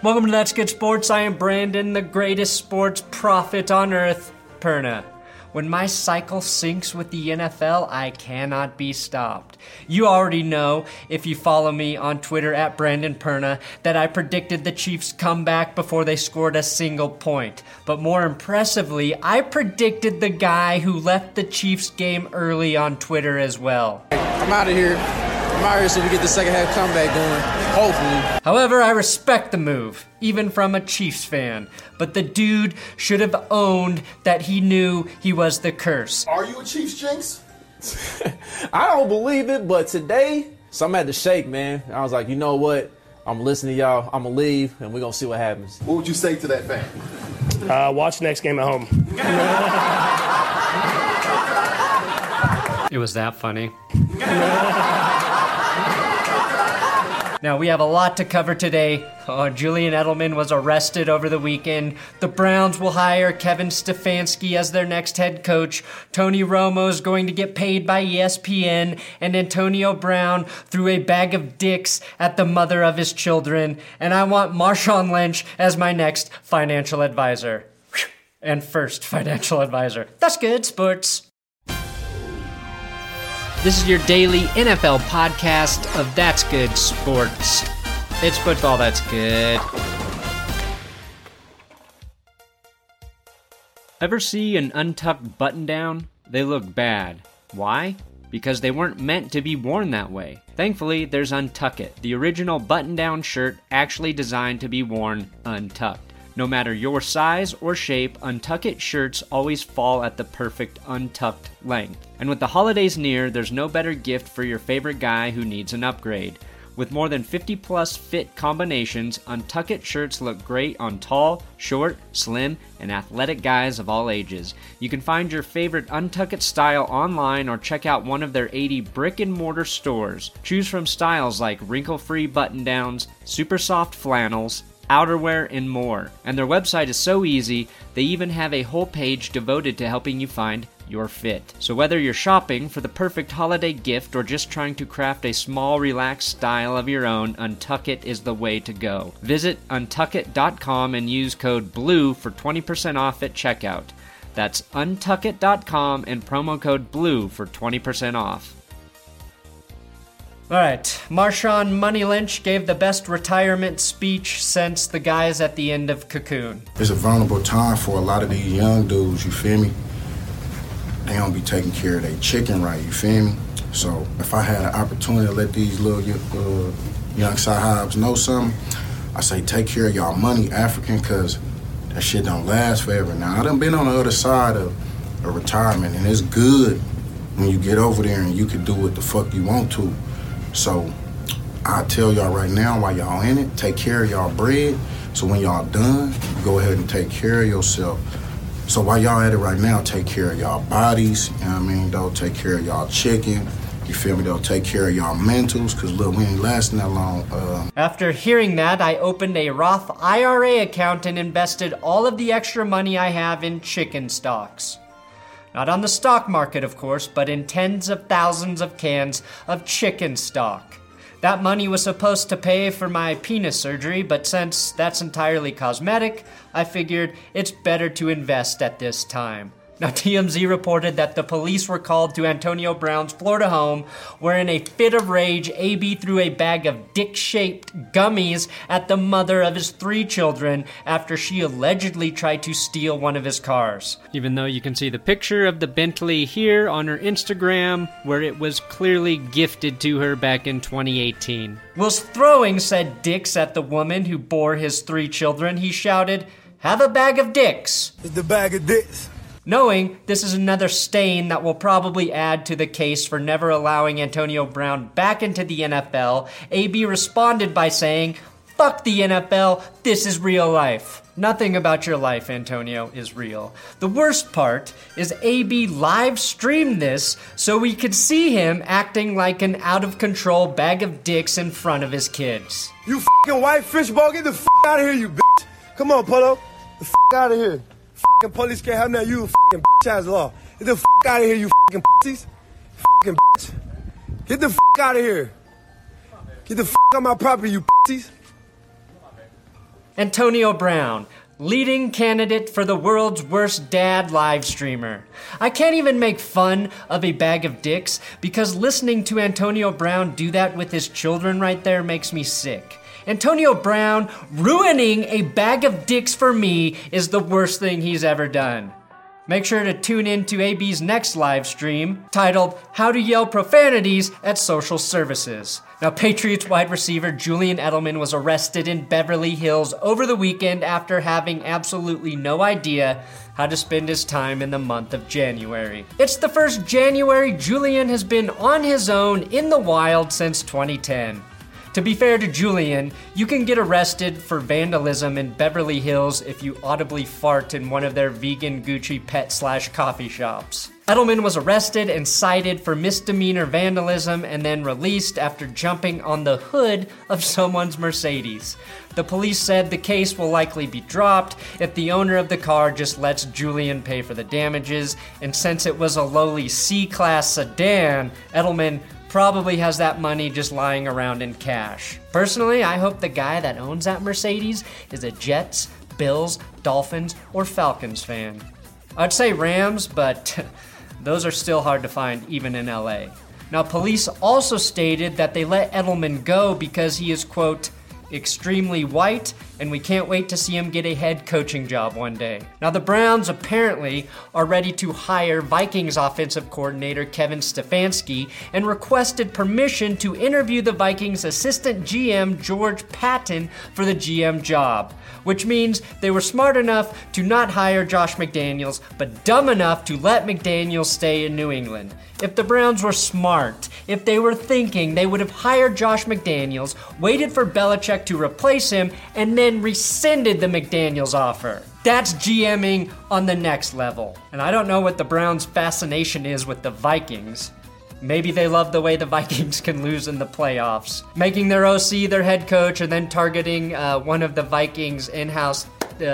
Welcome to That's Good Sports. I am Brandon, the greatest sports prophet on earth, Perna. When my cycle syncs with the NFL, I cannot be stopped. You already know, if you follow me on Twitter at Brandon Perna, that I predicted the Chiefs' comeback before they scored a single point. But more impressively, I predicted the guy who left the Chiefs game early on Twitter as well. I'm out of here. I'm out here so we get the second half comeback going, hopefully. However, I respect the move, even from a Chiefs fan. But the dude should have owned that he knew he was the curse. Are you a Chiefs jinx? I don't believe it, but today, something had to shake, man. I was like, you know what? I'm listening to y'all. I'm going to leave, and we're going to see what happens. What would you say to that fan? Watch next game at home. It was that funny. Now, we have a lot to cover today. Julian Edelman was arrested over the weekend. The Browns will hire Kevin Stefanski as their next head coach. Tony Romo is going to get paid by ESPN. And Antonio Brown threw a bag of dicks at the mother of his children. And I want Marshawn Lynch as my next financial advisor. And first financial advisor. That's good, sports. This is your daily NFL podcast of That's Good Sports. It's football that's good. Ever see an untucked button down? They look bad. Why? Because they weren't meant to be worn that way. Thankfully, there's Untuck It, the original button-down shirt actually designed to be worn untucked. No matter your size or shape, Untuck It shirts always fall at the perfect untucked length. And with the holidays near, there's no better gift for your favorite guy who needs an upgrade. With more than 50 plus fit combinations, Untuck It shirts look great on tall, short, slim, and athletic guys of all ages. You can find your favorite Untuck It style online or check out one of their 80 brick and mortar stores. Choose from styles like wrinkle-free button-downs, super soft flannels, outerwear, and more. And their website is so easy, they even have a whole page devoted to helping you find your fit. So whether you're shopping for the perfect holiday gift or just trying to craft a small, relaxed style of your own, Untuck It is the way to go. Visit untuckit.com and use code BLUE for 20% off at checkout. That's untuckit.com and promo code BLUE for 20% off. Alright, Marshawn Money Lynch gave the best retirement speech since the guys at the end of Cocoon. It's a vulnerable time for a lot of these young dudes, you feel me? They don't be taking care of their chicken right, you feel me? So if I had an opportunity to let these little young sahibs know something, I say take care of y'all money, African, because that shit don't last forever. Now, I done been on the other side of a retirement, and it's good when you get over there and you can do what the fuck you want to. So I tell y'all right now, while y'all in it, take care of y'all bread. So when y'all done, go ahead and take care of yourself. So while y'all at it right now, take care of y'all bodies, you know what I mean? Don't take care of y'all chicken. You feel me? They'll take care of y'all mentals, because look, we ain't lasting that long. After hearing that, I opened a Roth IRA account and invested all of the extra money I have in chicken stocks. Not on the stock market, of course, but in tens of thousands of cans of chicken stock. That money was supposed to pay for my penis surgery, but since that's entirely cosmetic, I figured it's better to invest at this time. Now, TMZ reported that the police were called to Antonio Brown's Florida home, where in a fit of rage, AB threw a bag of dick-shaped gummies at the mother of his 3 children after she allegedly tried to steal one of his cars. Even though you can see the picture of the Bentley here on her Instagram, where it was clearly gifted to her back in 2018. Whilst throwing said dicks at the woman who bore his 3 children, he shouted, "Have a bag of dicks." It's the bag of dicks. Knowing this is another stain that will probably add to the case for never allowing Antonio Brown back into the NFL, AB responded by saying, "Fuck the NFL, this is real life." Nothing about your life, Antonio, is real. The worst part is AB live streamed this so we could see him acting like an out-of-control bag of dicks in front of his kids. You fucking white fishbowl, get the fuck out of here, you bitch. Come on, Polo. The fuck out of here. Fucking police can't have that, you fucking bitch ass law. Get the fuck out of here, you fucking pussies. Fucking bitch. Get the fuck out of here. Get the fuck on my property, you pussies. Antonio Brown, leading candidate for the world's worst dad live streamer. I can't even make fun of a bag of dicks because listening to Antonio Brown do that with his children right there makes me sick. Antonio Brown ruining a bag of dicks for me is the worst thing he's ever done. Make sure to tune in to AB's next live stream titled How to Yell Profanities at Social Services. Now, Patriots wide receiver Julian Edelman was arrested in Beverly Hills over the weekend after having absolutely no idea how to spend his time in the month of January. It's the first January Julian has been on his own in the wild since 2010. To be fair to Julian, you can get arrested for vandalism in Beverly Hills if you audibly fart in one of their vegan Gucci pet/coffee shops. Edelman was arrested and cited for misdemeanor vandalism and then released after jumping on the hood of someone's Mercedes. The police said the case will likely be dropped if the owner of the car just lets Julian pay for the damages, and since it was a lowly C-Class sedan, Edelman probably has that money just lying around in cash. Personally, I hope the guy that owns that Mercedes is a Jets, Bills, Dolphins, or Falcons fan. I'd say Rams, but those are still hard to find even in LA. Now, police also stated that they let Edelman go because he is, quote, extremely white, and we can't wait to see him get a head coaching job one day. Now, the Browns apparently are ready to hire Vikings offensive coordinator Kevin Stefanski and requested permission to interview the Vikings assistant GM George Patton for the GM job, which means they were smart enough to not hire Josh McDaniels, but dumb enough to let McDaniels stay in New England. If the Browns were smart, if they were thinking, they would have hired Josh McDaniels, waited for Belichick to replace him, and then rescinded the McDaniels offer. That's GMing on the next level. And I don't know what the Browns' fascination is with the Vikings. Maybe they love the way the Vikings can lose in the playoffs, making their OC their head coach and then targeting one of the Vikings' in-house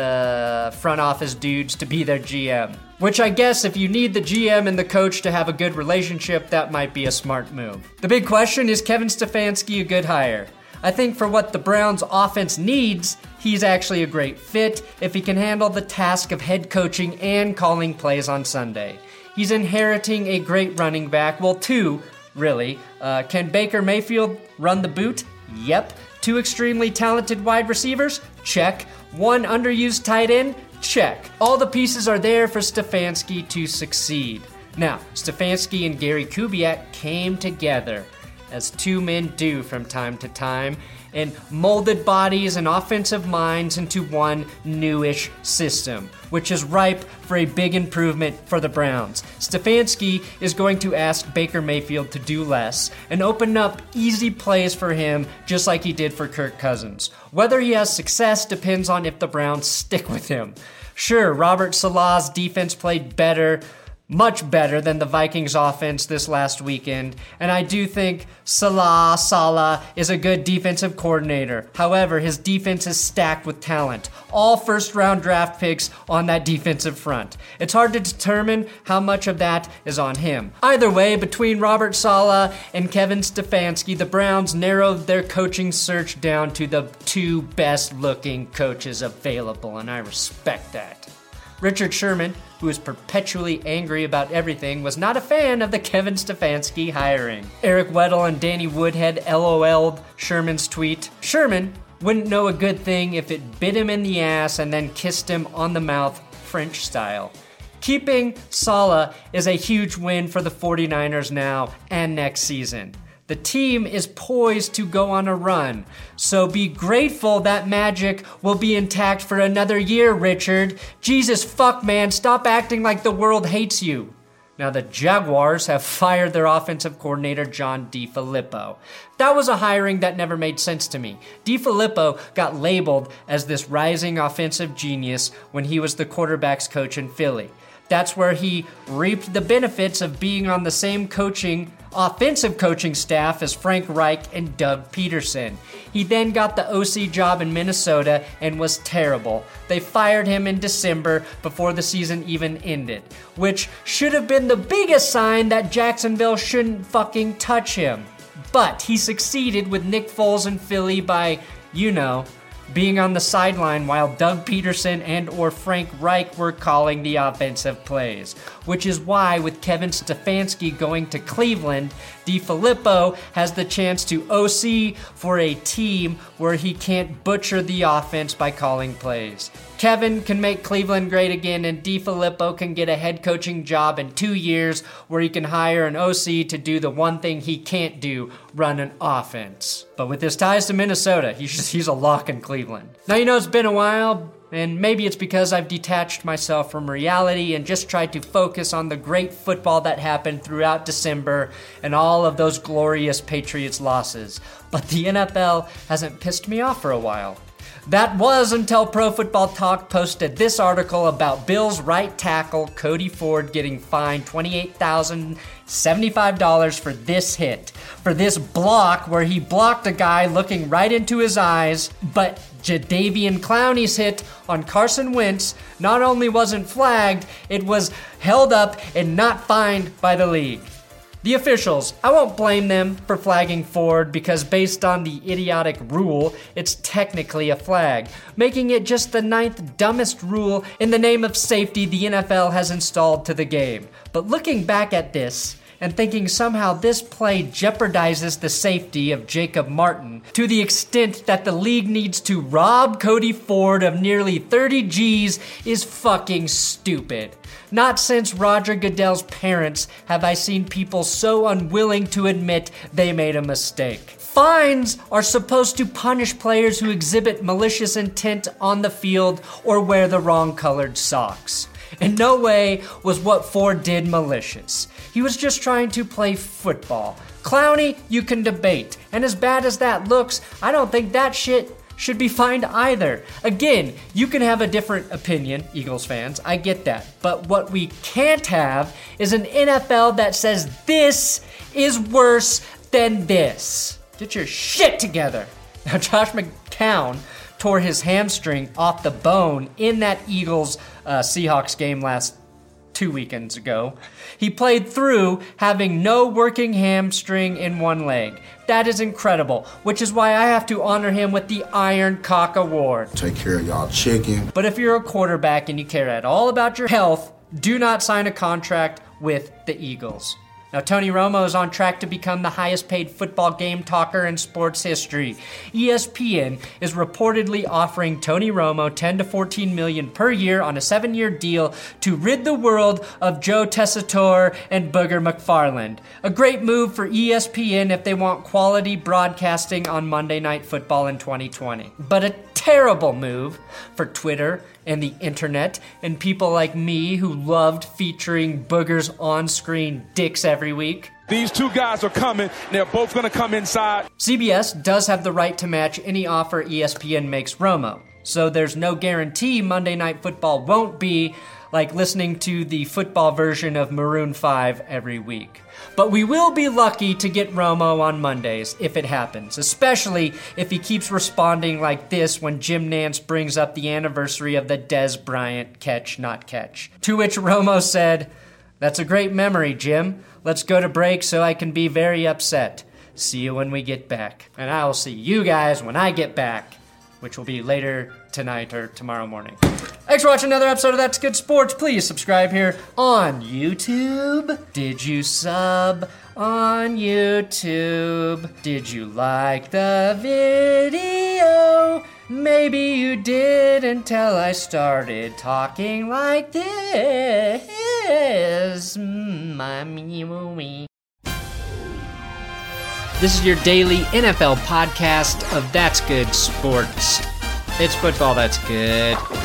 front office dudes to be their GM. Which I guess if you need the GM and the coach to have a good relationship, that might be a smart move. The big question is Kevin Stefanski a good hire? I think for what the Browns' offense needs, he's actually a great fit if he can handle the task of head coaching and calling plays on Sunday. He's inheriting a great running back, well, two, really. Can Baker Mayfield run the boot? Yep. Two extremely talented wide receivers? Check. One underused tight end? Check. All the pieces are there for Stefanski to succeed. Now, Stefanski and Gary Kubiak came together, as two men do from time to time, and molded bodies and offensive minds into one newish system, which is ripe for a big improvement for the Browns. Stefanski is going to ask Baker Mayfield to do less and open up easy plays for him just like he did for Kirk Cousins. Whether he has success depends on if the Browns stick with him. Sure, Robert Saleh's defense played better, much better than the Vikings offense this last weekend, and I do think Saleh is a good defensive coordinator. However, his defense is stacked with talent. All first-round draft picks on that defensive front. It's hard to determine how much of that is on him. Either way, between Robert Saleh and Kevin Stefanski, the Browns narrowed their coaching search down to the two best-looking coaches available, and I respect that. Richard Sherman, who is perpetually angry about everything, was not a fan of the Kevin Stefanski hiring. Eric Weddle and Danny Woodhead LOL'd Sherman's tweet. Sherman wouldn't know a good thing if it bit him in the ass and then kissed him on the mouth, French style. Keeping Saleh is a huge win for the 49ers now and next season. The team is poised to go on a run, so be grateful that magic will be intact for another year, Richard. Jesus fuck, man, stop acting like the world hates you. Now, the Jaguars have fired their offensive coordinator, John DeFilippo. That was a hiring that never made sense to me. DeFilippo got labeled as this rising offensive genius when he was the quarterback's coach in Philly. That's where he reaped the benefits of being on the same offensive coaching staff as Frank Reich and Doug Peterson. He then got the OC job in Minnesota and was terrible. They fired him in December before the season even ended, which should have been the biggest sign that Jacksonville shouldn't fucking touch him. But he succeeded with Nick Foles in Philly by, being on the sideline while Doug Peterson and or Frank Reich were calling the offensive plays. Which is why with Kevin Stefanski going to Cleveland, DeFilippo has the chance to OC for a team where he can't butcher the offense by calling plays. Kevin can make Cleveland great again, and DeFilippo can get a head coaching job in 2 years where he can hire an OC to do the one thing he can't do, run an offense. But with his ties to Minnesota, he's a lock in Cleveland. Now, you know, it's been a while, and maybe it's because I've detached myself from reality and just tried to focus on the great football that happened throughout December and all of those glorious Patriots losses. But the NFL hasn't pissed me off for a while. That was until Pro Football Talk posted this article about Bills right tackle Cody Ford getting fined $28,075 for this hit. For this block where he blocked a guy looking right into his eyes, but Jadeveon Clowney's hit on Carson Wentz not only wasn't flagged, it was held up and not fined by the league. The officials, I won't blame them for flagging Ford because based on the idiotic rule, it's technically a flag, making it just the 9th dumbest rule in the name of safety the NFL has installed to the game. But looking back at this, and thinking somehow this play jeopardizes the safety of Jacob Martin to the extent that the league needs to rob Cody Ford of nearly 30 G's is fucking stupid. Not since Roger Goodell's parents have I seen people so unwilling to admit they made a mistake. Fines are supposed to punish players who exhibit malicious intent on the field or wear the wrong colored socks. In no way was what Ford did malicious. He was just trying to play football. Clowney, you can debate. And as bad as that looks, I don't think that shit should be fined either. Again, you can have a different opinion, Eagles fans, I get that. But what we can't have is an NFL that says this is worse than this. Get your shit together. Now, Josh McCown tore his hamstring off the bone in that Eagles Seahawks game 2 weekends ago. He played through having no working hamstring in one leg. That is incredible, which is why I have to honor him with the Iron Cock Award. Take care of y'all chicken. But if you're a quarterback and you care at all about your health, do not sign a contract with the Eagles. Now, Tony Romo is on track to become the highest paid football game talker in sports history. ESPN is reportedly offering Tony Romo $10 to $14 million per year on a 7-year deal to rid the world of Joe Tessitore and Booger McFarland. A great move for ESPN if they want quality broadcasting on Monday Night Football in 2020. But a terrible move for Twitter and the internet and people like me who loved featuring Booger's on-screen dicks every week. These two guys are coming. They're both going to come inside. CBS does have the right to match any offer ESPN makes Romo. So there's no guarantee Monday Night Football won't be like listening to the football version of Maroon 5 every week. But we will be lucky to get Romo on Mondays if it happens, especially if he keeps responding like this when Jim Nantz brings up the anniversary of the Dez Bryant catch, not catch. To which Romo said, "That's a great memory, Jim. Let's go to break so I can be very upset. See you when we get back. And I will see you guys when I get back," which will be later tonight or tomorrow morning. Thanks for watching another episode of That's Good Sports. Please subscribe here on YouTube. Did you sub on YouTube? Did you like the video? Maybe you did until I started talking like this. This is your daily NFL podcast of That's Good Sports. It's football that's good.